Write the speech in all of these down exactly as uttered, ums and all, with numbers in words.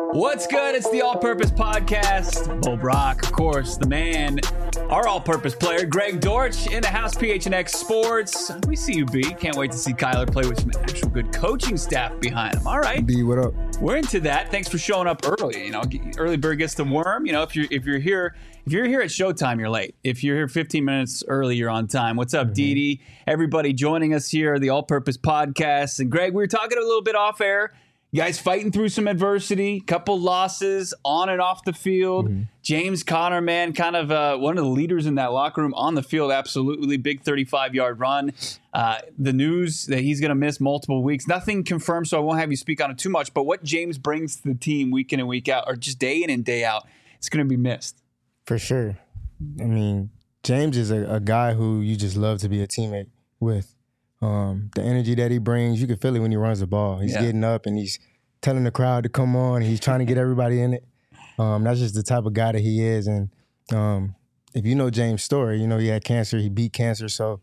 What's good? It's the All-Purpose Podcast. Bo Brock, of course, the man, our all-purpose player, Greg Dortch, in the house, P H N X Sports. We see you, B. Can't wait to see Kyler play with some actual good coaching staff behind him. All right. B, what up? We're into that. Thanks for showing up early. You know, early bird gets the worm. You know, if you're if you're here if you're here at showtime, you're late. If you're here fifteen minutes early, you're on time. What's up, mm-hmm. Dee? Everybody joining us here, the All-Purpose Podcast. And Greg, we were talking a little bit off air. You guys fighting through some adversity, couple losses on and off the field. Mm-hmm. James Conner, man, kind of uh, one of the leaders in that locker room on the field. Absolutely big thirty-five-yard run. Uh, the news that he's going to miss multiple weeks. Nothing confirmed, so I won't have you speak on it too much. But what James brings to the team week in and week out, or just day in and day out, it's going to be missed. For sure. I mean, James is a, a guy who you just love to be a teammate with. Um, the energy that he brings, you can feel it when he runs the ball. He's yeah. getting up and he's telling the crowd to come on. He's trying to get everybody in it. Um, that's just the type of guy that he is. And um, if you know James' story, you know he had cancer. He beat cancer, so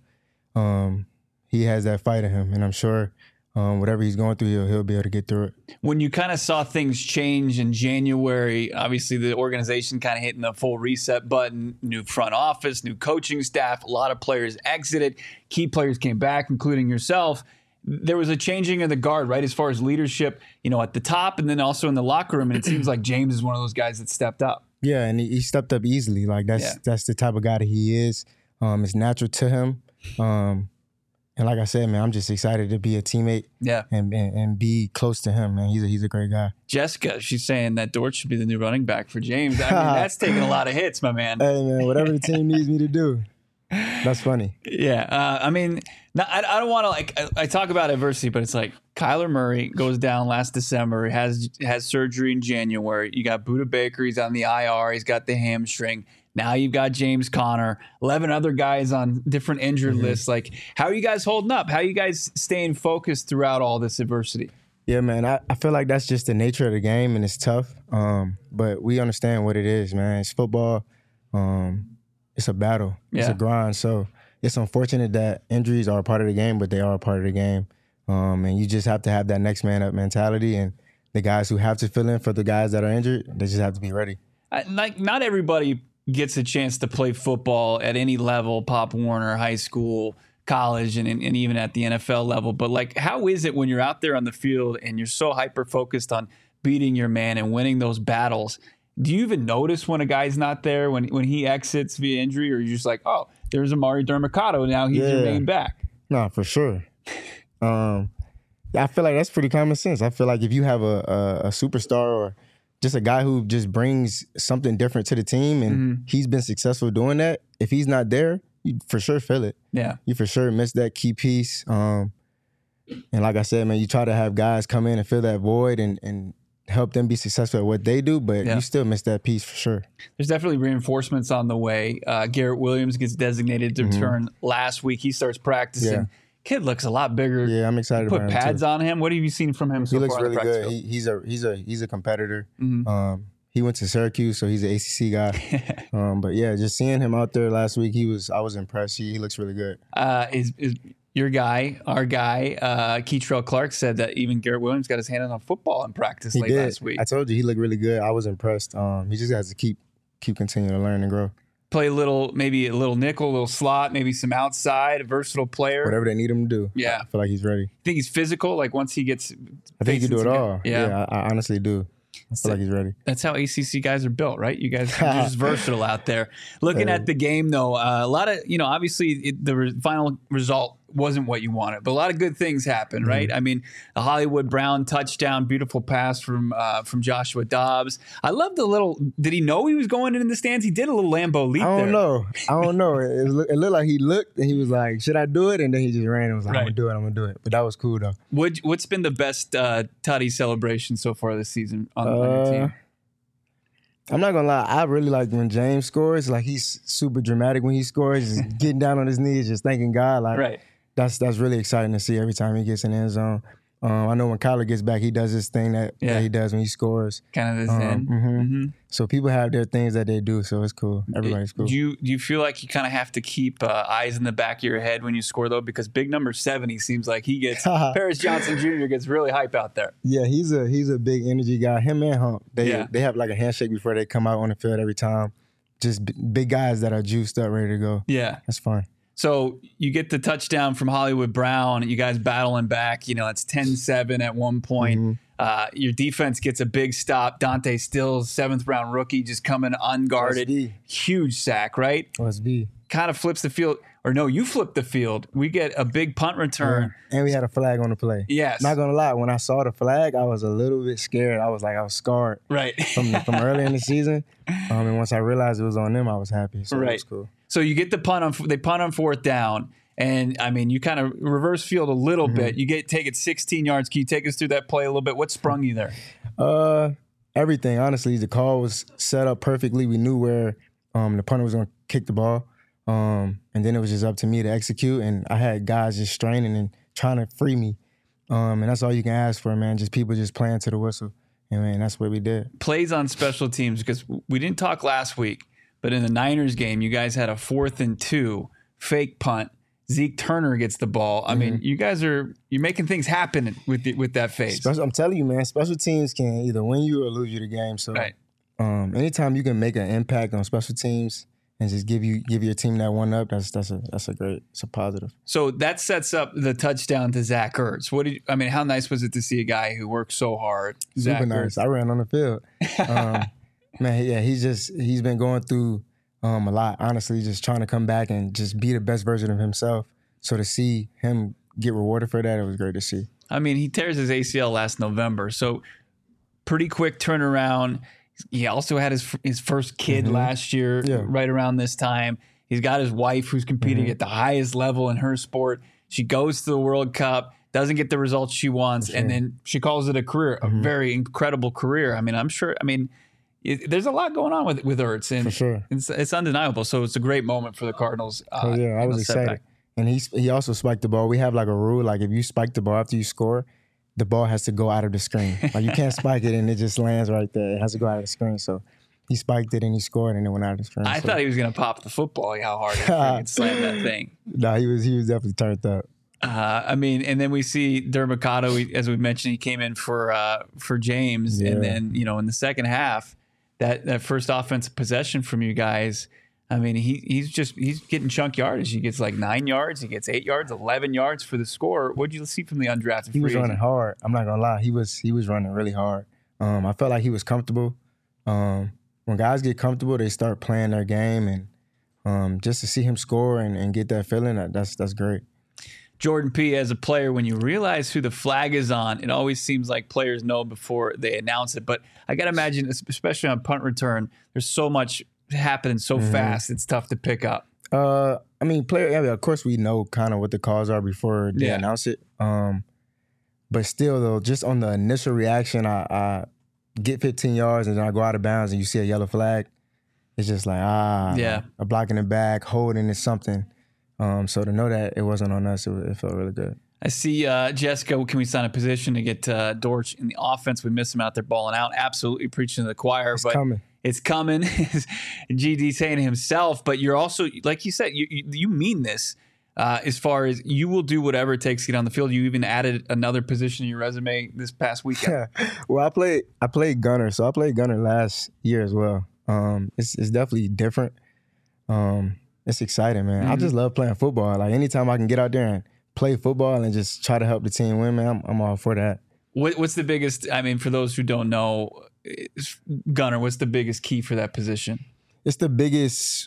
um, he has that fight in him. And I'm sure um, whatever he's going through, he'll, he'll be able to get through it. When you kind of saw things change in January, obviously the organization kind of hitting the full reset button, new front office, new coaching staff, a lot of players exited, key players came back, including yourself. There was a changing of the guard, right, as far as leadership, you know, at the top and then also in the locker room. And it seems like James is one of those guys that stepped up. Yeah, and he, he stepped up easily. Like, that's yeah. that's the type of guy that he is. Um, it's natural to him. Um, and like I said, man, I'm just excited to be a teammate yeah. and, and and be close to him, man. He's a, he's a great guy. Jessica, she's saying that Dort should be the new running back for James. I mean, that's taking a lot of hits, my man. Hey, man, whatever the team needs me to do. That's funny. Yeah. Uh, I mean, not, I, I don't want to, like, I, I talk about adversity, but it's like Kyler Murray goes down last December, has has surgery in January. You got Budda Baker, he's on the I R, he's got the hamstring. Now you've got James Conner, eleven other guys on different injured mm-hmm. lists. Like, how are you guys holding up? How are you guys staying focused throughout all this adversity? Yeah, man, I, I feel like that's just the nature of the game, and it's tough. Um, but we understand what it is, man. It's football. Um, it's a battle. Yeah. It's a grind. So it's unfortunate that injuries are a part of the game, but they are a part of the game. Um, and you just have to have that next man up mentality. And the guys who have to fill in for the guys that are injured, they just have to be ready. I, like, not everybody gets a chance to play football at any level, Pop Warner, high school, college, and, and even at the N F L level. But, like, how is it when you're out there on the field and you're so hyper-focused on beating your man and winning those battles? Do you even notice when a guy's not there, when when he exits via injury, or you're just like, oh, there's Amari Dermicado, now he's yeah. your main back? No, for sure. um, I feel like that's pretty common sense. I feel like if you have a, a, a superstar or just a guy who just brings something different to the team and mm-hmm. he's been successful doing that, if he's not there, you for sure feel it. Yeah. You for sure miss that key piece. Um, and like I said, man, you try to have guys come in and fill that void and, and help them be successful at what they do, but yeah. you still miss that piece for sure. There's definitely reinforcements on the way. Uh, Garrett Williams gets designated to mm-hmm. return last week. He starts practicing. Yeah. Kid looks a lot bigger. Yeah, I'm excited Put about him. Put pads too. on him. What have you seen from him so he far? He looks really good. He, he's a he's a he's a competitor. Mm-hmm. Um, he went to Syracuse, so he's an A C C guy. um, but yeah, just seeing him out there last week, he was I was impressed. He, he looks really good. Uh, is is your guy, our guy, uh, Keitrell Clark said that even Garrett Williams got his hand on football in practice he late did. last week. I told you he looked really good. I was impressed. Um, he just has to keep keep continuing to learn and grow. Play a little, maybe a little nickel, a little slot, maybe some outside, a versatile player. Whatever they need him to do. Yeah. I feel like he's ready. Think he's physical? Like once he gets... I think he can do it all. Yeah, yeah I, I honestly do. I feel like he's ready. That's how A C C guys are built, right? You guys are just versatile out there. Looking hey. at the game, though, uh, a lot of, you know, obviously it, the re- final result wasn't what you wanted, but a lot of good things happened, right? Mm-hmm. I mean, the Hollywood Brown touchdown, beautiful pass from uh, from Joshua Dobbs. I love the little, did he know he was going in the stands? He did a little Lambeau leap I don't there. know. I don't know. It, it looked like he looked and he was like, should I do it? And then he just ran and was like, right. I'm going to do it, I'm going to do it. But that was cool, though. What, what's been the best uh, Tutty celebration so far this season on, uh, on your team? I'm not gonna lie, I really like when James scores. Like, he's super dramatic when he scores, just getting down on his knees, just thanking God. Like, right. that's that's really exciting to see every time he gets in the end zone. Um, I know when Kyler gets back, he does this thing that, Yeah. that he does when he scores. Kind of his Um, end. mhm. Mhm. So people have their things that they do, so it's cool. Everybody's cool. Do you do you feel like you kind of have to keep uh, eyes in the back of your head when you score though? Because big number seventy seems like he gets Paris Johnson Junior gets really hype out there. Yeah, he's a he's a big energy guy. Him and Hump, they Yeah. they have like a handshake before they come out on the field every time. Just b- big guys that are juiced up, ready to go. Yeah. That's fun. So you get the touchdown from Hollywood Brown. You guys battling back. You know, it's ten seven at one point. Mm-hmm. Uh, your defense gets a big stop. Dante Stills, seventh round rookie, just coming unguarded. S B. Huge sack, right? Let's be. Kind of flips the field. Or no, you flip the field. We get a big punt return. And we had a flag on the play. Yes. Not gonna lie, when I saw the flag, I was a little bit scared. I was like, I was scarred Right. from from early in the season. Um, and once I realized it was on them, I was happy. So Right. it was cool. So you get the punt on they punt on fourth down, and I mean you kind of reverse field a little Mm-hmm. bit. You get take it sixteen yards. Can you take us through that play a little bit? What sprung you there? Uh, everything. Honestly, the call was set up perfectly. We knew where um, the punter was gonna kick the ball, um, and then it was just up to me to execute. And I had guys just straining and trying to free me, um, and that's all you can ask for, man. Just people just playing to the whistle, and man, that's what we did. Plays on special teams, because we didn't talk last week, but in the Niners game, you guys had a fourth and two fake punt. Zeke Turner gets the ball. I mean, you guys are you're making things happen with the, with that phase. Special, I'm telling you, man. Special teams can either win you or lose you the game. So, Right. um, anytime you can make an impact on special teams and just give you give your team that one up, that's that's a that's a great, it's a positive. So that sets up the touchdown to Zach Ertz. What did you, I mean? How nice was it to see a guy who worked so hard? Super Zach nice. Ertz. I ran on the field. Um, man, yeah, he's just he's been going through um, a lot. Honestly, just trying to come back and just be the best version of himself. So to see him get rewarded for that, it was great to see. I mean, he tears his A C L last November, so pretty quick turnaround. He also had his his first kid Mm-hmm. last year, Yeah. right around this time. He's got his wife who's competing Mm-hmm. at the highest level in her sport. She goes to the World Cup, doesn't get the results she wants, and then she calls it a career, Mm-hmm. a very incredible career. I mean, I'm sure. I mean, it, there's a lot going on with with Ertz, and For sure. it's, it's undeniable. So it's a great moment for the Cardinals. Uh, Oh yeah, I in was the excited. setback. And he he also spiked the ball. We have like a rule, like if you spike the ball after you score, the ball has to go out of the screen. Like you can't spike it and it just lands right there. It has to go out of the screen. So he spiked it and he scored and it went out of the screen. I so. thought he was going to pop the football, like how hard he freaking slammed that thing. Nah, he was he was definitely turned up. Uh, I mean, and then we see Dermicado, we, as we mentioned, he came in for uh, for James, Yeah. and then you know in the second half, that that first offensive possession from you guys, I mean, he he's just he's getting chunk yardage. He gets like nine yards, he gets eight yards, eleven yards for the score. What did you see from the undrafted? He was free running agent? hard. I'm not gonna lie. He was he was running really hard. Um, I felt like he was comfortable. Um, when guys get comfortable, they start playing their game, and um, just to see him score and, and get that feeling, that, that's that's great. Jordan P, as a player, when you realize who the flag is on, it always seems like players know before they announce it. But I got to imagine, especially on punt return, there's so much happening so Mm-hmm. fast, it's tough to pick up. Uh, I mean, player. Yeah, of course, we know kind of what the calls are before they Yeah. announce it. Um, but still, though, just on the initial reaction, I, I get fifteen yards and then I go out of bounds and you see a yellow flag. It's just like ah, Yeah. a block in the back, holding is something. Um, so to know that it wasn't on us, it, it felt really good. I see uh, Jessica, can we sign a position to get uh, Dortch in the offense? We miss him out there balling out. Absolutely preaching to the choir. It's but coming. It's coming. G D saying himself, but you're also, like you said, you, you, you mean this uh, as far as you will do whatever it takes to get on the field. You even added another position in your resume this past weekend. Well, I played I played gunner, so I played gunner last year as well. Um, it's it's definitely different. Um, it's exciting, man. Mm-hmm. I just love playing football. Like anytime I can get out there and play football and just try to help the team win, man, I'm, I'm all for that. What, what's the biggest, I mean, for those who don't know, is- gunner, what's the biggest key for that position? It's the biggest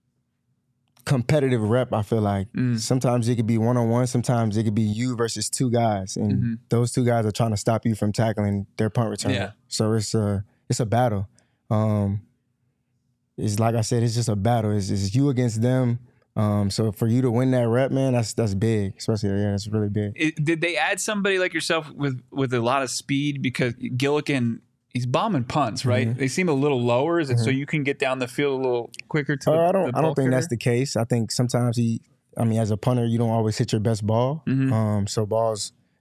competitive rep, I feel like. Mm. Sometimes it could be one-on-one. Sometimes it could be you versus two guys. And Mm-hmm. those two guys are trying to stop you from tackling their punt return. Yeah. So it's a, it's a battle. Um, it's like I said, it's just a battle. It's, it's you against them. Um, so for you to win that rep, man, that's that's big. Especially, yeah, that's really big. It, did they add somebody like yourself with, with a lot of speed? Because Gillikin, he's bombing punts, right? Mm-hmm. They seem a little lower, is it so you can get down the field a little quicker to the, Uh, I don't. the I ball don't think that's carrier? the case. I think sometimes he. I mean, as a punter, you don't always hit your best ball. Mm-hmm. Um, so balls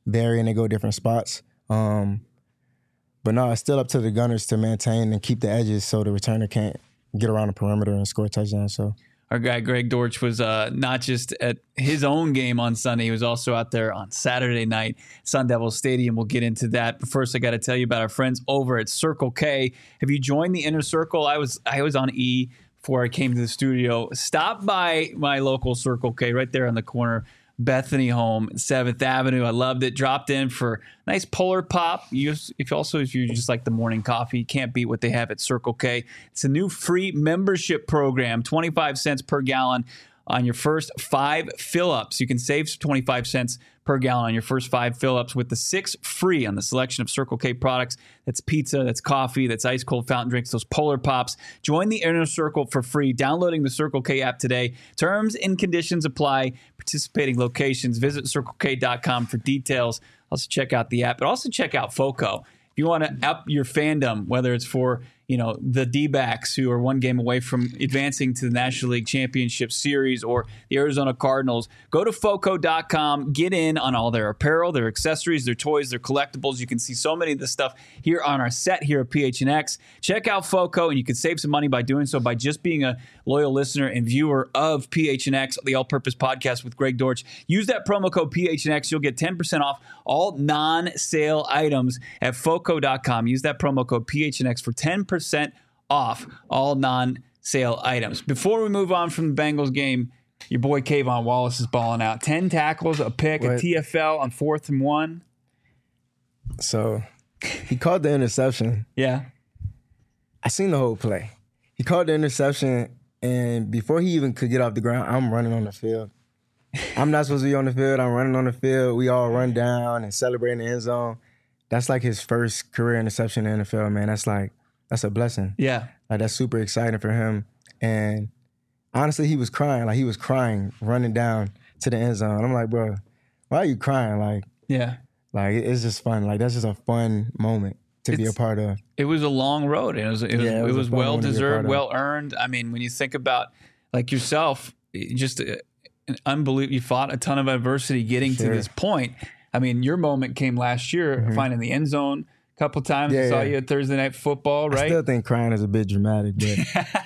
vary and they go different spots. Um, but no, it's still up to the gunners to maintain and keep the edges so the returner can't get around the perimeter and score a touchdown. So our guy Greg Dortch was uh, not just at his own game on Sunday, he was also out there on Saturday night, Sun Devil Stadium. We'll get into that. But first, I got to tell you about our friends over at Circle K. Have you joined the Inner Circle? I was I was on E before I came to the studio. Stop by my local Circle K right there on the corner, Bethany Home, seventh Avenue. I loved it. Dropped in for a nice Polar Pop. You, if also, if you just like the morning coffee, you can't beat what they have at Circle K. It's a new free membership program, twenty-five cents per gallon on your first five fill-ups. You can save twenty-five cents per gallon on your first five fill-ups with the six free on the selection of Circle K products. That's pizza, that's coffee, that's ice cold fountain drinks, those Polar Pops. Join the Inner Circle for free, downloading the Circle K app today. Terms and conditions apply. Participating locations, visit circle k dot com for details. Also check out the app, but also check out FOCO. If you want to up your fandom, whether it's for you know, the D-backs who are one game away from advancing to the National League Championship Series, or the Arizona Cardinals, go to foco dot com, get in on all their apparel, their accessories, their toys, their collectibles. You can see so many of this stuff here on our set here at P H N X. Check out FOCO, and you can save some money by doing so by just being a loyal listener and viewer of P H N X, the All-Purpose Podcast with Greg Dortch. Use that promo code P H N X. You'll get ten percent off all non-sale items at foco dot com. Use that promo code P H N X for ten percent off all non-sale items. Before we move on from the Bengals game, your boy Kayvon Wallace is balling out. ten tackles, a pick, what? a T F L on fourth and one. So he called the interception. Yeah. I seen the whole play. He called the interception, and before he even could get off the ground, I'm running on the field. I'm not supposed to be on the field. I'm running on the field. We all run down and celebrate in the end zone. That's like his first career interception in the N F L, man. That's like, that's a blessing. Yeah. Like, that's super exciting for him. And honestly, he was crying. Like, he was crying, running down to the end zone. I'm like, bro, why are you crying? Like, yeah. Like, it's just fun. Like, that's just a fun moment to it's, be a part of. It was a long road. It was, it was, yeah, it was, it was well-deserved, well-earned. I mean, when you think about, like, yourself, just a, an unbelievable, you fought a ton of adversity getting sure. to this point. I mean, your moment came last year, mm-hmm. finding the end zone a couple times. Yeah, I saw yeah. you at Thursday Night Football, right? I still think crying is a bit dramatic, but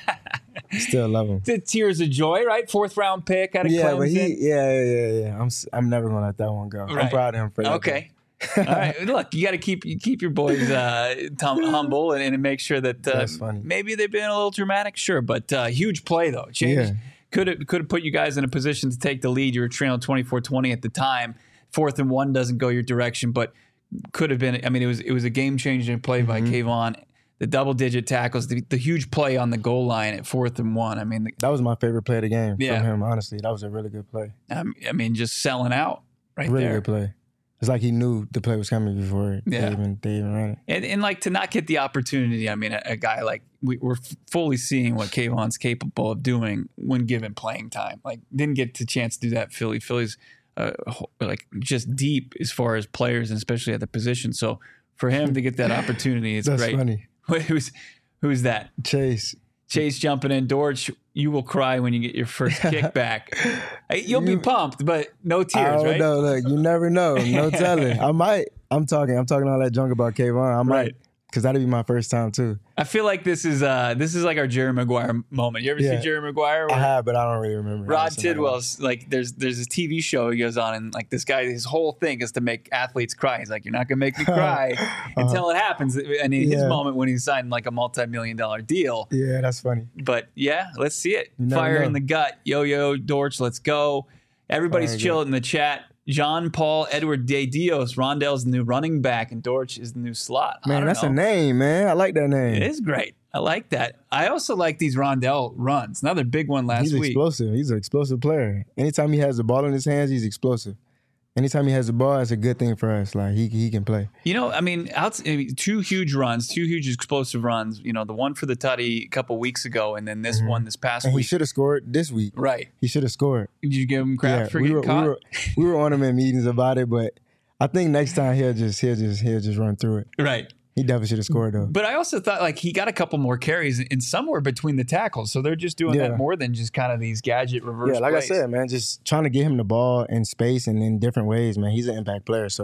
still love him. The tears of joy, right? Fourth round pick out of yeah, Clemson. But he, yeah, yeah, yeah, yeah. I'm I'm never gonna let that one go. Right. I'm proud of him for that. Okay. All right. Look, you got to keep you keep your boys uh, tum- humble and, and make sure that uh, maybe they've been a little dramatic, sure, but uh, huge play though. Change yeah. could have could have put you guys in a position to take the lead. You were trailing twenty-four twenty at the time. Fourth and one doesn't go your direction, but could have been. I mean, it was it was a game changing play mm-hmm. by Kayvon. The double digit tackles, the, the huge play on the goal line at fourth and one. I mean, the, that was my favorite play of the game yeah. from him. Honestly, that was a really good play. Um, I mean, just selling out right really there. Really good play. It's like he knew the play was coming before yeah. they even they even ran it. And, and like to not get the opportunity. I mean, a, a guy like we, we're fully seeing what Kayvon's capable of doing when given playing time. Like didn't get the chance to do that. Philly, Philly's. Uh, like just deep as far as players and especially at the position. So for him to get that opportunity, it's That's great. Funny. Who's who's that? Chase. Chase jumping in. Dortch, you will cry when you get your first kickback. You'll you, be pumped, but no tears, I don't right? know. Look, you never know. No telling. I might. I'm talking. I'm talking all that junk about Kayvon. I might. Right. Because that'd be my first time too. I feel like this is uh this is like our Jerry Maguire moment. You ever yeah. see Jerry Maguire? I have, but I don't really remember. Rod Tidwell's like there's there's this T V show he goes on, and like this guy, his whole thing is to make athletes cry. He's like, you're not gonna make me cry until uh, it happens. And in yeah. his moment when he signed like a multi-million dollar deal. Yeah, that's funny. But yeah, let's see it. Fire know. in the gut. Yo yo Dortch, let's go. Everybody's Fire chilling in the chat. Jean Paul Edward De Dios. Rondell's the new running back, and Dortch is the new slot. Man, that's know. a name, man. I like that name. It is great. I like that. I also like these Rondell runs. Another big one last he's week. He's explosive. He's an explosive player. Anytime he has the ball in his hands, he's explosive. Anytime he has the ball, it's a good thing for us. Like, he he can play. You know, I mean, out, I mean, two huge runs, two huge explosive runs. You know, the one for the tutty a couple weeks ago, and then this mm-hmm. one this past and week. He should have scored this week. Right. He should have scored. Did you give him crap yeah, for we getting were, caught? We were, we were on him in meetings about it, but I think next time he'll just he'll just he'll just run through it. Right. He definitely should have scored, though. But I also thought, like, he got a couple more carries in somewhere between the tackles. So they're just doing yeah. that more than just kind of these gadget reverse Yeah, like plays. I said, man, just trying to get him the ball in space and in different ways, man. He's an impact player, so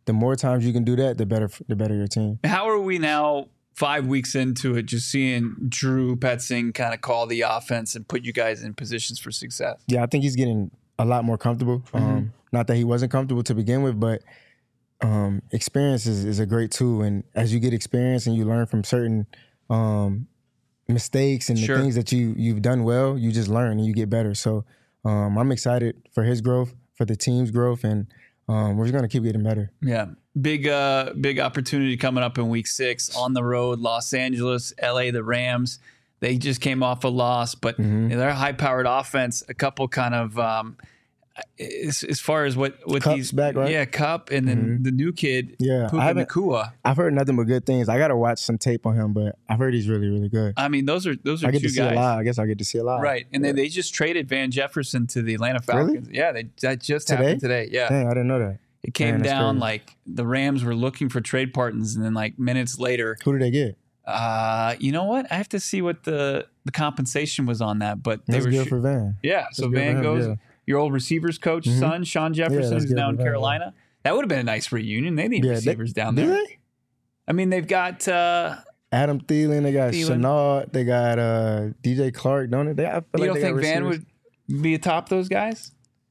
the more times you can do that, the better the better your team. How are we now five weeks into it, just seeing Drew Petzing kind of call the offense and put you guys in positions for success? Yeah, I think he's getting a lot more comfortable. Mm-hmm. Um, not that he wasn't comfortable to begin with, but um, experience is, is a great tool. And as you get experience and you learn from certain um, mistakes and sure. the things that you, you've done well, you just learn and you get better. So um, I'm excited for his growth, for the team's growth, and um, we're just going to keep getting better. Yeah. Big uh, big opportunity coming up in week six on the road, Los Angeles, L A, the Rams. They just came off a loss, but mm-hmm. they're a high-powered offense. A couple kind of um, as, as far as what what Cup's these back, right? Yeah, Cup, and then mm-hmm. the new kid, yeah, Puka Nacua. I've heard nothing but good things. I got to watch some tape on him, but I've heard he's really, really good. I mean, those are those are I get two to see guys. a lot. I guess I get to see a lot. Right, and yeah. then they just traded Van Jefferson to the Atlanta Falcons. Really? Yeah, they that just today? happened today. Yeah, dang, I didn't know that. It came Man, down crazy. like the Rams were looking for trade partners, and then like minutes later, who did they get? Uh, you know what? I have to see what the, the compensation was on that, but they that's were good sh- for Van. Yeah, that's so Van him, goes. Yeah. Your old receivers coach, mm-hmm. son, Sean Jefferson, yeah, who's now in Van, Carolina. Yeah. That would have been a nice reunion. They need yeah, receivers they, down do there. They? I mean, they've got uh, Adam Thielen. They got Thielen. Shenault. They got uh, D J Clark. Don't they? I feel you like don't they think got Van would be atop those guys?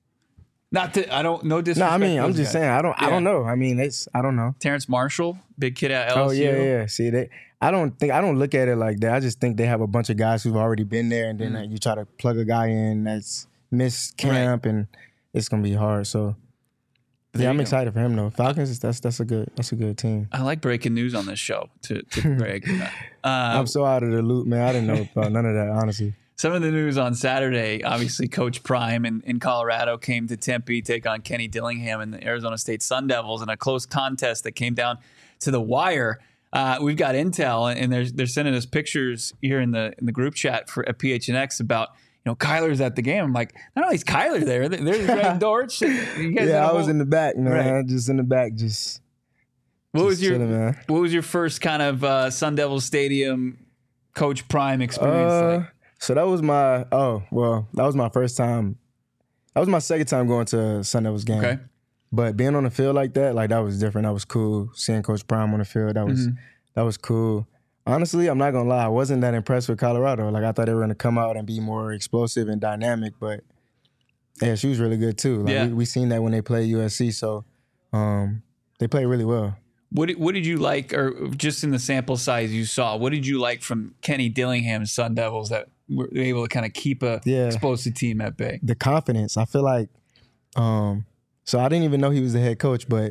Not that I don't no disrespect. No, I mean, I'm just guys. saying. I don't. Yeah. I don't know. I mean, it's. I don't know. Terrence Marshall, big kid at L S U. Oh yeah, yeah. See, they. I don't think. I don't look at it like that. I just think they have a bunch of guys who've already been there, and then mm. uh, you try to plug a guy in that's missed camp, right. and it's gonna be hard. So. Yeah, I'm excited go. for him though. Falcons, that's that's a good that's a good team. I like breaking news on this show to, to Greg. Uh, I'm so out of the loop, man. I didn't know about none of that, honestly. Some of the news on Saturday, obviously Coach Prime in, in Colorado came to Tempe, take on Kenny Dillingham and the Arizona State Sun Devils in a close contest that came down to the wire. Uh, we've got intel, and they're they're sending us pictures here in the in the group chat for at P H N X about. You know, Kyler's at the game. I'm like, not only is Kyler there, there's Greg Dortch. You guys yeah, I whole... was in the back, man. Right. Just in the back, just. What just was your chilling, man. What was your first kind of uh, Sun Devil Stadium Coach Prime experience uh, like? So that was my oh well, that was my first time. That was my second time going to a Sun Devils game. Okay, but being on the field like that, like that was different. That was cool. Seeing Coach Prime on the field, that was mm-hmm. that was cool. Honestly, I'm not gonna lie. I wasn't that impressed with Colorado. Like I thought they were gonna come out and be more explosive and dynamic, but yeah, she was really good too. Like yeah. we, we seen that when they played U S C, so um, they played really well. What did, what did you like, or just in the sample size you saw? What did you like from Kenny Dillingham's Sun Devils that were able to kind of keep a yeah. explosive team at bay? The confidence. I feel like. Um, so I didn't even know he was the head coach, but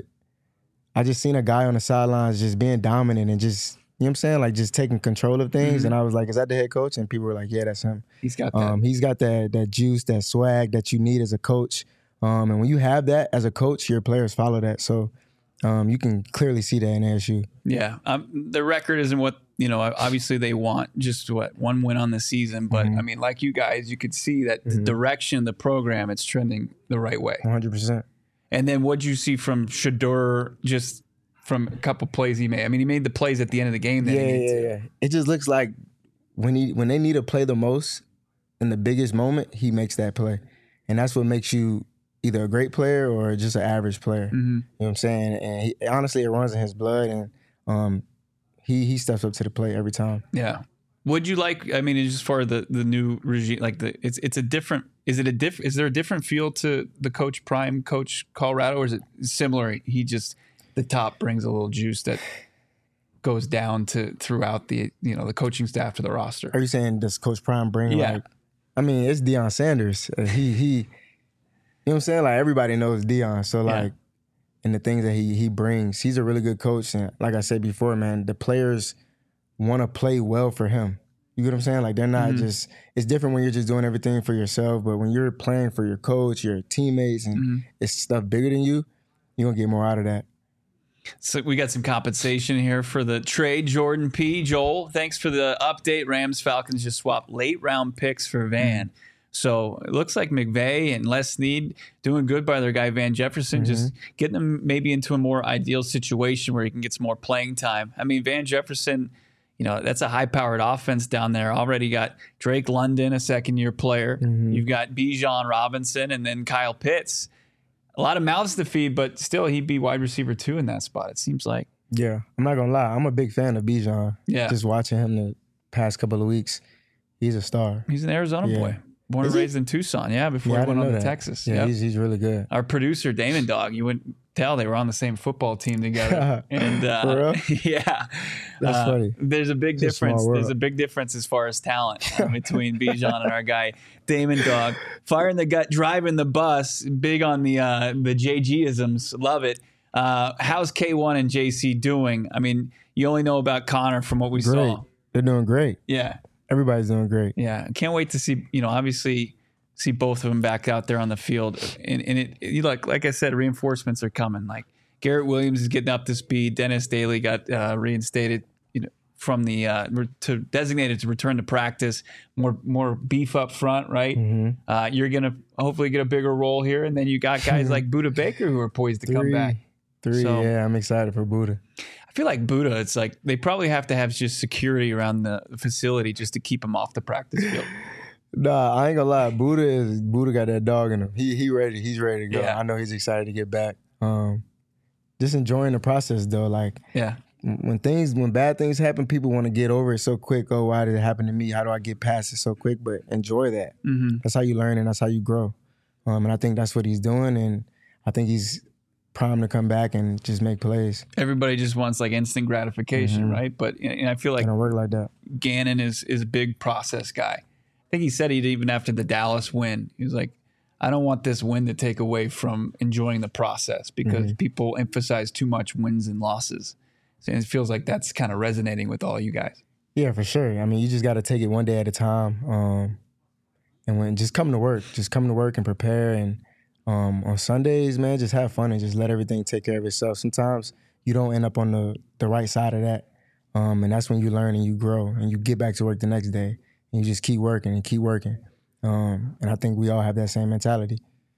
I just seen a guy on the sidelines just being dominant and just. You know what I'm saying? Like just taking control of things. Mm-hmm. And I was like, is that the head coach? And people were like, yeah, that's him. He's got that. Um, he's got that that juice, that swag that you need as a coach. Um, and when you have that as a coach, your players follow that. So um, you can clearly see that in A S U. Yeah. Um, the record isn't what, you know, obviously they want just what, one win on the season. But mm-hmm. I mean, like you guys, you could see that mm-hmm. the direction of the program, it's trending the right way. one hundred percent. And then what'd you see from Shedeur just from a couple plays he made? I mean, he made the plays at the end of the game. That yeah, he needed yeah, to. yeah. It just looks like when he when they need to play the most in the biggest moment, he makes that play, and that's what makes you either a great player or just an average player. Mm-hmm. You know what I'm saying? And he, honestly, it runs in his blood, and um, he he steps up to the plate every time. Yeah. Would you like? I mean, as far as the the new regime, like the it's it's a different. Is it a diff? Is there a different feel to the Coach Prime, Coach Colorado, or is it similar? He just the top brings a little juice that goes down to throughout the you know the coaching staff to the roster. Are you saying does Coach Prime bring yeah. like? I mean, it's Deion Sanders. Uh, he he, you know what I'm saying? Like everybody knows Deion, so like, yeah. and the things that he he brings, he's a really good coach. And like I said before, man, the players want to play well for him. You get what I'm saying? Like they're not mm-hmm. just. It's different when you're just doing everything for yourself, but when you're playing for your coach, your teammates, and mm-hmm. it's stuff bigger than you, you're gonna get more out of that. So we got some compensation here for the trade. Jordan P. Joel, thanks for the update. Rams Falcons just swapped late round picks for Van. Mm-hmm. So it looks like McVay and Les Snead doing good by their guy Van Jefferson, mm-hmm. just getting them maybe into a more ideal situation where he can get some more playing time. I mean, Van Jefferson, you know, that's a high-powered offense down there. Already got Drake London, a second-year player. Mm-hmm. You've got Bijan Robinson and then Kyle Pitts. a lot of mouths to feed, but still he'd be wide receiver two in that spot, it seems like. Yeah, I'm not going to lie. I'm a big fan of Bijan. Yeah. Just watching him the past couple of weeks, he's a star. He's an Arizona yeah. boy. Born and raised in Tucson, yeah, before yeah, he went on to that. Texas. Yeah, yep. he's, he's really good. Our producer, Damon Dog, you wouldn't tell they were on the same football team together. And uh, For real? yeah. That's uh, funny. There's a big It's a difference. small There's world. a big difference as far as talent uh, between Bijan and our guy, Damon Dog. Fire in the gut, driving the bus, big on the uh, the J G-isms. Love it. Uh, how's K one and J C doing? I mean, you only know about Connor from what we Great. saw. They're doing great. Yeah. Everybody's doing great. Yeah. Can't wait to see, you know, obviously see both of them back out there on the field. And, and it, you like, like I said, reinforcements are coming. Like Garrett Williams is getting up to speed. Dennis Daly got uh, reinstated, you know, from the uh, to designated to return to practice. More more beef up front, right? Mm-hmm. Uh, you're gonna hopefully get a bigger role here, and then you got guys like Buda Baker who are poised to Three, come back. Three, So- yeah, I'm excited for Buddha. I feel like Buda, it's like they probably have to have just security around the facility just to keep him off the practice field. Nah, I ain't gonna lie. Buddha is Buddha got that dog in him. He he ready. He's ready to go. Yeah. I know he's excited to get back. Um, just enjoying the process though. Like Yeah. when things when bad things happen, people want to get over it so quick. Oh, why did it happen to me? How do I get past it so quick? But enjoy that. Mm-hmm. That's how you learn and that's how you grow. Um, and I think that's what he's doing. And I think he's primed to come back and just make plays. Everybody just wants like instant gratification, Mhm. right? But and I feel like And I work like that. Gannon is is a big process guy. I think he said it even after the Dallas win. He was like, I don't want this win to take away from enjoying the process because Mm-hmm. people emphasize too much wins and losses. And it feels like that's kind of resonating with all you guys. Yeah, for sure. I mean, you just got to take it one day at a time. Um, and when just come to work, just come to work and prepare. And um, on Sundays, man, just have fun and just let everything take care of itself. Sometimes you don't end up on the, the right side of that. Um, and that's when you learn and you grow and you get back to work the next day and you just keep working and keep working. Um, and I think we all have that same mentality.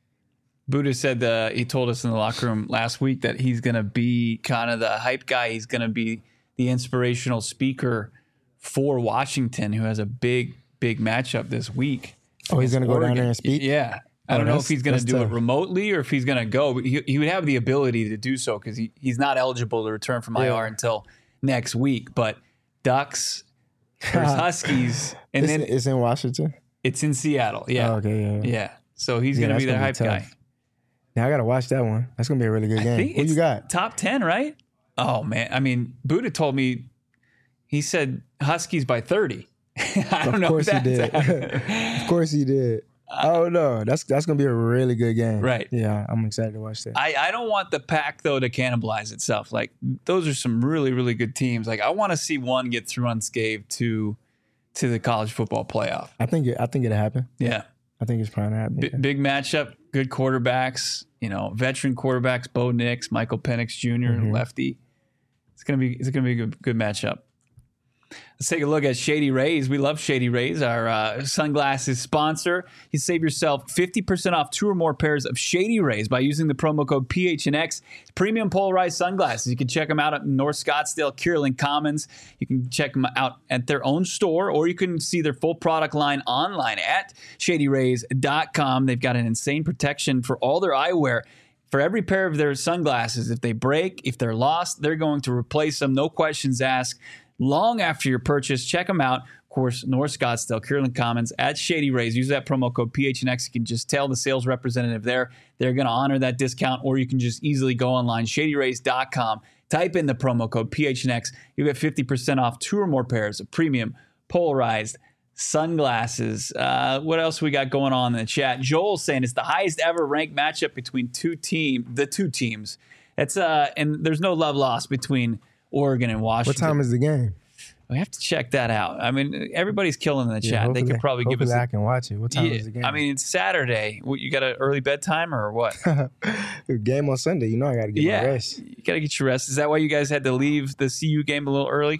Buddha said uh, he told us in the locker room last week that he's going to be kind of the hype guy. He's going to be the inspirational speaker for Washington, who has a big, big matchup this week. Oh, he's against going to go down Oregon. there and speak? Yeah. I Oh, don't know if that's- he's going to that's do it tough. remotely or if he's going to go, but he, he would have the ability to do so because he, he's not eligible to return from I R Yeah. until next week. But Ducks versus Huskies, and it's, then it's in Washington? it's in Seattle. Yeah. Oh, okay, yeah. Yeah. So he's Yeah, going to be that's their gonna hype be guy. tough. Now I got to watch that one. That's going to be a really good I game. think Who it's you got? top ten, right? Oh man, I mean, Buddha told me he said Huskies by thirty. I don't Of know. course if he that's did. accurate. Of course he did. Oh no, that's that's gonna be a really good game. Right. Yeah, I'm excited to watch that. I, I don't want the pack though to cannibalize itself. Like those are some really really good teams. Like I want to see one get through unscathed to to the college football playoff. I think it, I think it'll happen. Yeah, I think it's probably gonna happen. B- big matchup. Good quarterbacks. You know, veteran quarterbacks. Bo Nix, Michael Penix Junior Mhm. lefty. It's gonna be it's gonna be a good, good matchup. Let's take a look at Shady Rays. We love Shady Rays, our uh, sunglasses sponsor. You save yourself fifty percent off two or more pairs of Shady Rays by using the promo code P H N X. It's premium polarized sunglasses. You can check them out at North Scottsdale, Kierland Commons. You can check them out at their own store, or you can see their full product line online at shady rays dot com. They've got an insane protection for all their eyewear. For every pair of their sunglasses, if they break, if they're lost, they're going to replace them. No questions asked. Long after your purchase, check them out. Of course, North Scottsdale, Kierland Commons at Shady Rays. Use that promo code P H N X. You can just tell the sales representative there. They're going to honor that discount, or you can just easily go online, shady rays dot com. Type in the promo code P H N X. You get fifty percent off two or more pairs of premium polarized sunglasses. Uh, what else we got going on in the chat? Joel's saying it's the highest ever ranked matchup between two team, the two teams. It's uh, and there's no love lost between Oregon and What Washington. time is the game? We have to check that out. I mean, everybody's killing in the Yeah, chat. They could hopefully- probably give us. hopefully I A, can watch it. What time yeah, is the game? I mean, it's Saturday. What, you got an early bedtime or what? game on Sunday. You know I got to get yeah, my rest. you got to get your rest. Is that why you guys had to leave the C U game a little early?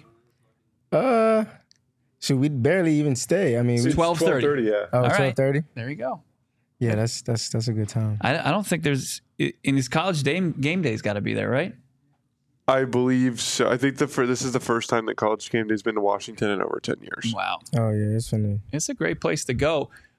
Uh, should we barely even stay? I mean, we, twelve thirty. Yeah. oh, all right. twelve thirty. There you go. Yeah, that's that's that's a good time. I, I don't think there's in his college day, game day's got to be there, right? I believe so. I think the for this is the first time that College Game Day's been to Washington in over ten years. Wow, Oh yeah, it's funny. it's a great place to go.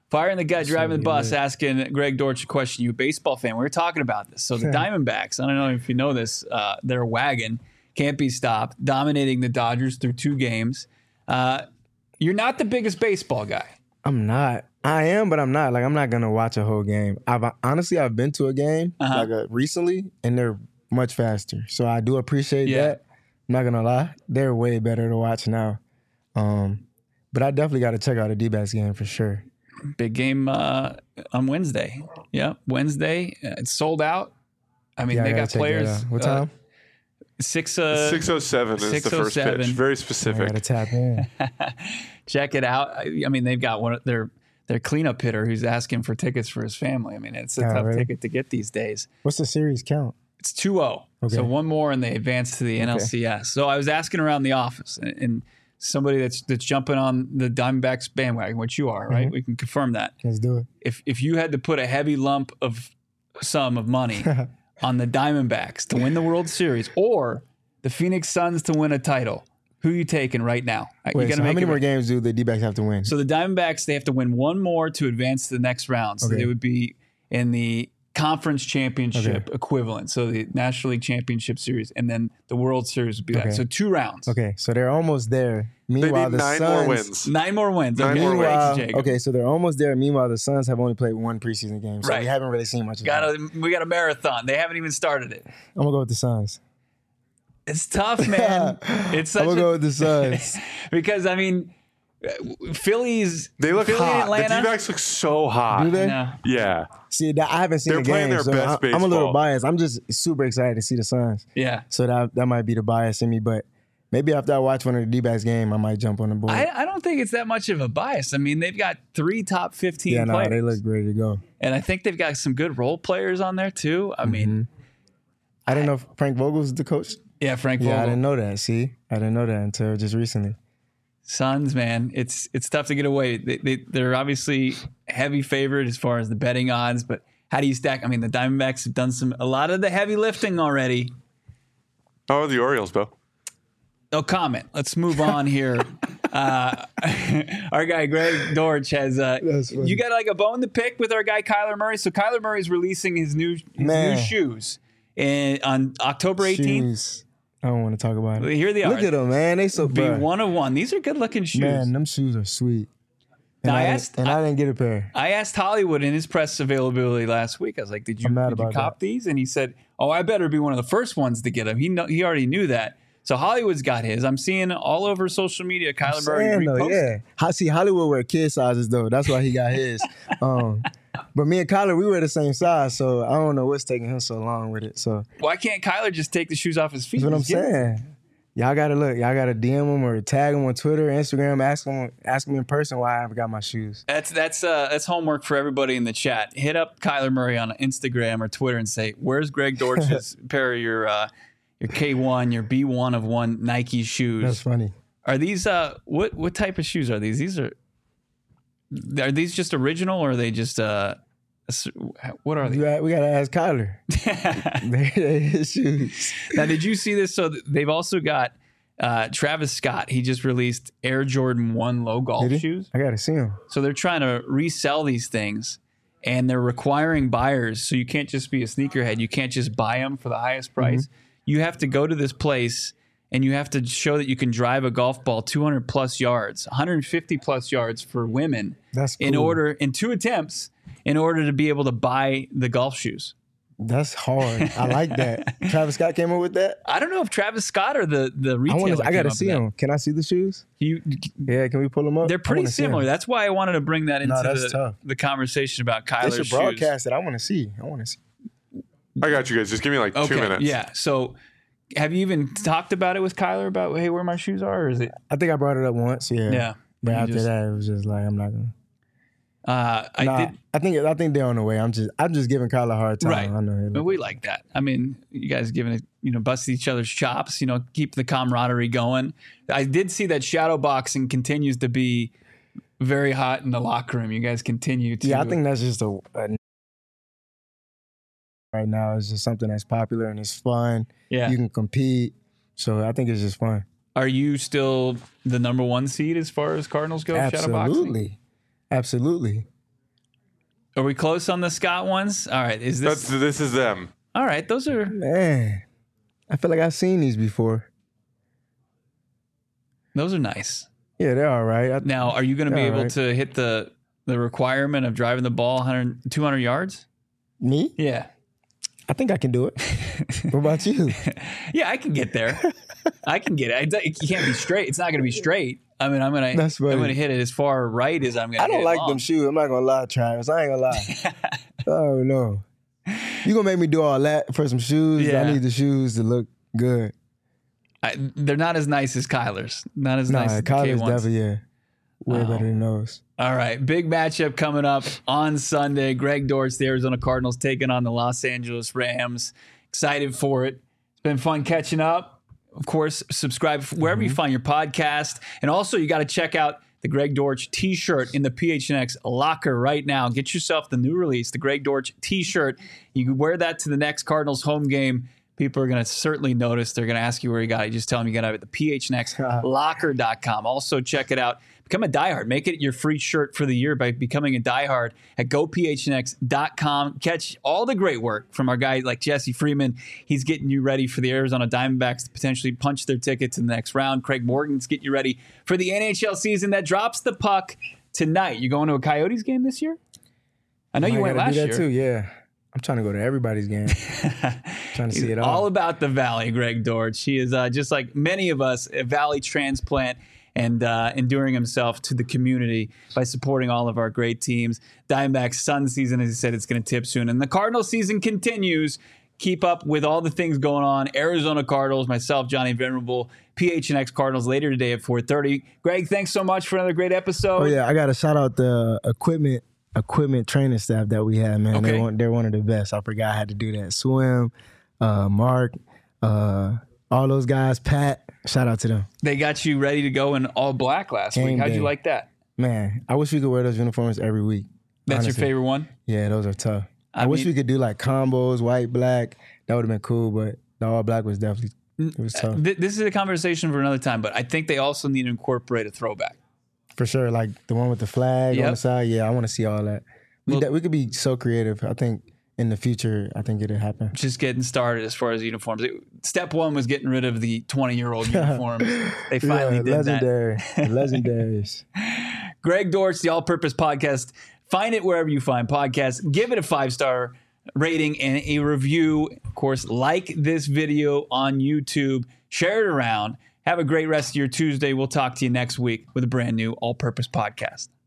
Fire in the gut, driving the bus, lit. asking Greg Dortch a question. You a baseball fan? We were talking about this. So the Diamondbacks, I don't know if you know this, uh, their wagon can't be stopped, dominating the Dodgers through two games. Uh, you're not the biggest baseball guy. I'm not. I am, but I'm not. Like, I'm not going to watch a whole game. I've honestly, I've been to a game Uh-huh. like a, recently, and they're much faster. So I do appreciate Yeah. that. I'm not going to lie. They're way better to watch now. Um, but I definitely got to check out a D-backs game for sure. Big game uh, on Wednesday. Yeah, Wednesday. Uh, It's sold out. I mean, Yeah, I they gotta got check that players. out. What uh, time? Six. Uh, six oh seven is the first six oh seven. pitch. Very I specific. got to tap in. Check it out. I, I mean, they've got one of their their cleanup hitter who's asking for tickets for his family. I mean, it's a Oh, tough really? ticket to get these days. What's the series count? It's two oh. Okay. So one more and they advance to the N L C S. So I was asking around the office and, and somebody that's that's jumping on the Diamondbacks bandwagon, which you are, right? Mm-hmm. We can confirm that. Let's do it. If if you had to put a heavy lump of sum of money on the Diamondbacks to win the World Series or the Phoenix Suns to win a title, who are you taking right now? You Wait, gotta so how make many it more right. games do the D-backs have to win? So the Diamondbacks, they have to win one more to advance to the next round. So Okay. they would be in the conference championship Okay. equivalent. So the National League Championship Series, and then the World Series would be that. Okay. So two rounds. Okay, so they're almost there. They Meanwhile, need the nine Suns, more wins. Nine more wins. Nine okay. more Thank you, Meanwhile, Jacob. okay, so they're almost there. Meanwhile, the Suns have only played one preseason game, so Right. we haven't really seen much of Got them. a, we got a marathon. They haven't even started it. I'm gonna go with the Suns. It's tough, man. It's such I'm gonna a, go with the Suns. because I mean, Phillies. They look Philly and hot. The Atlanta. D-backs look so hot. Do they? No. Yeah. See, that, I haven't seen They're the game, playing their so best I, I'm a little baseball. biased. I'm just super excited to see the Suns. Yeah. So that that might be the bias in me, but maybe after I watch one of the D-backs game, I might jump on the board. I, I don't think it's that much of a bias. I mean, they've got three top fifteen yeah, no, players. they look ready to go. And I think they've got some good role players on there too. I mean, I didn't know if Frank Vogel's the coach. yeah, Frank Yeah, I Vogel. didn't know that. See, I didn't know that until just recently. Suns, man, it's it's tough to get away. They, they they're obviously heavy favorite as far as the betting odds, but how do you stack? I mean, the Diamondbacks have done some a lot of the heavy lifting already. How are the Orioles, Bo? No comment. Let's move on here. uh, our guy Greg Dortch has. Uh, That's funny. you got like a bone to pick with our guy Kyler Murray. So Kyler Murray's releasing his new his Man. new shoes in, on October eighteenth. Shoes. I don't want to talk about it. Here they are. Look at them, man. They so Be bruh. one of one. These are good looking shoes. Man, them shoes are sweet. And, Now, I I, asked- didn't, and I, didn't get a pair. I asked Hollywood in his press availability last week. I was like, "Did you, I'm mad did you about cop these?" And he said, "Oh, I better be one of the first ones to get them." He know, he already knew that. So Hollywood's got his. I'm seeing all over social media. Kyler Murray Saying, though, reposting. yeah. Ho- See, Hollywood wear kid sizes though. That's why he got his. um, but me and Kyler, we were the same size, so I don't know what's taking him so long with it. So Why can't Kyler just take the shoes off his feet? that's what I'm and just get them? saying. Y'all gotta look. Y'all gotta D M him or tag him on Twitter, Instagram. Ask him, ask him in person why I haven't got my shoes. That's that's uh, that's homework for everybody in the chat. Hit up Kyler Murray on Instagram or Twitter and say, "Where's Greg Dortch's pair of your uh, your K one, your B one of one Nike shoes?" That's funny. Are these uh what what type of shoes are these? These are are these just original or are they just uh s- what are We they? got, we gotta ask Kyler. They- they his shoes. Now, did you see this? So th- they've also got uh, Travis Scott. He just released Air Jordan one low golf Did he? shoes. I gotta see him. So they're trying to resell these things, and they're requiring buyers. So you can't just be a sneakerhead. You can't just buy them for the highest price. Mm-hmm. You have to go to this place and you have to show that you can drive a golf ball two hundred plus yards, one hundred fifty plus yards for women That's cool. in order in two attempts in order to be able to buy the golf shoes. That's hard. I like that. Travis Scott came up with that. I don't know if Travis Scott or the the I retailer. want. I came gotta up see with that. them. Can I see the shoes? You, Yeah, can we pull them up? they're I pretty wanna see 'em. similar. That's why I wanted to bring that into No, that's the, tough. the conversation about They Kyler's should shoes. broadcast it. I want to see. I want to see. I got you guys. Just give me like Okay, two minutes. yeah. So, have you even talked about it with Kyler about hey, where my shoes are, or is it? I think I brought it up once. Yeah. Yeah. But You after just- that, it was just like I'm not gonna. Uh, I Nah, did. I think I think they're on the way. I'm just I'm just giving Kyler a hard time. Right. I know. But we like that. I mean, you guys giving it, you know, busting each other's chops, you know, keep the camaraderie going. I did see that shadow boxing continues to be very hot in the locker room. You guys continue to. Yeah, I think that's just a, a right now. It's just something that's popular and it's fun. Yeah. You can compete. So I think it's just fun. Are you still the number one seed as far as Cardinals go? Shadow boxing. Absolutely. Absolutely. Are we close on the Scott ones? All right. Is this? That's, this is them. All right. Those are. Man, I feel like I've seen these before. Those are nice. Yeah, they're all right. I, Now, are you going to be All able right. to hit the the requirement of driving the ball one hundred, two hundred yards? me? Yeah. I think I can do it. What about you? Yeah, I can get there. I can get it. It can't be straight. It's not going to be straight. I mean, I'm going to That's funny. I'm going to hit it as far right as I'm going to I hit don't it like long. them shoes. I'm not gonna lie, Travis. I ain't gonna lie. Oh no. You gonna make me do all that for some shoes? Yeah. I need the shoes to look good. I, they're not as nice as Kyler's. Not as Nah, nice as the K college ones. definitely yeah. Way Oh. better than those. All right, big matchup coming up on Sunday. Greg Dortch, the Arizona Cardinals, taking on the Los Angeles Rams. Excited for it. It's been fun catching up. Of course, subscribe wherever Mm-hmm. you find your podcast. And also, you got to check out the Greg Dortch t-shirt in the P H N X locker right now. Get yourself the new release, the Greg Dortch t-shirt. You can wear that to the next Cardinals home game. People are going to certainly notice. They're going to ask you where you got it. You just tell them you got it at the P H N X locker dot com. Also, check it out. Become a diehard. Make it your free shirt for the year by becoming a diehard at go P H N X dot com. Catch all the great work from our guy like Jesse Freeman. He's getting you ready for the Arizona Diamondbacks to potentially punch their ticket to the next round. Craig Morgan's getting you ready for the N H L season that drops the puck tonight. You going to a Coyotes game this year? I know you I went gotta last do that year. too, yeah. I'm trying to go to everybody's game. Trying to see it all. All about the Valley, Greg Dortch. He is uh, just like many of us, a Valley transplant and uh, enduring himself to the community by supporting all of our great teams. Diamondbacks Sun season, as he said, it's going to tip soon. And the Cardinal season continues. Keep up with all the things going on. Arizona Cardinals, myself, Johnny Venerable, P H N X Cardinals later today at four thirty. Greg, thanks so much for another great episode. Oh yeah, I gotta shout out the equipment equipment training staff that we have, man. Okay. They're, one, they're one of the best. I forgot I had to do that. Swim, uh, Mark, uh, all those guys, Pat, shout out to them. They got you ready to go in all black last Game week. How'd you day. like that? Man, I wish we could wear those uniforms every week. That's honestly. your favorite one? Yeah, those are tough. I, I wish mean- we could do like combos, white, black. That would have been cool, but the all black was definitely, it was tough. Th- This is a conversation for another time, but I think they also need to incorporate a throwback. For sure, like the one with the flag Yep. on the side. Yeah, I want to see all that. We, Well- de- we could be so creative. I think in the future, I think it'll happen. Just getting started as far as uniforms. It- step one was getting rid of the twenty-year-old uniforms. They finally yeah, did legendary, legendaries. that. Greg Dortch, the All Purpose Podcast. Find it wherever you find podcasts. Give it a five-star rating and a review. Of course, like this video on YouTube. Share it around. Have a great rest of your Tuesday. We'll talk to you next week with a brand new All Purpose Podcast.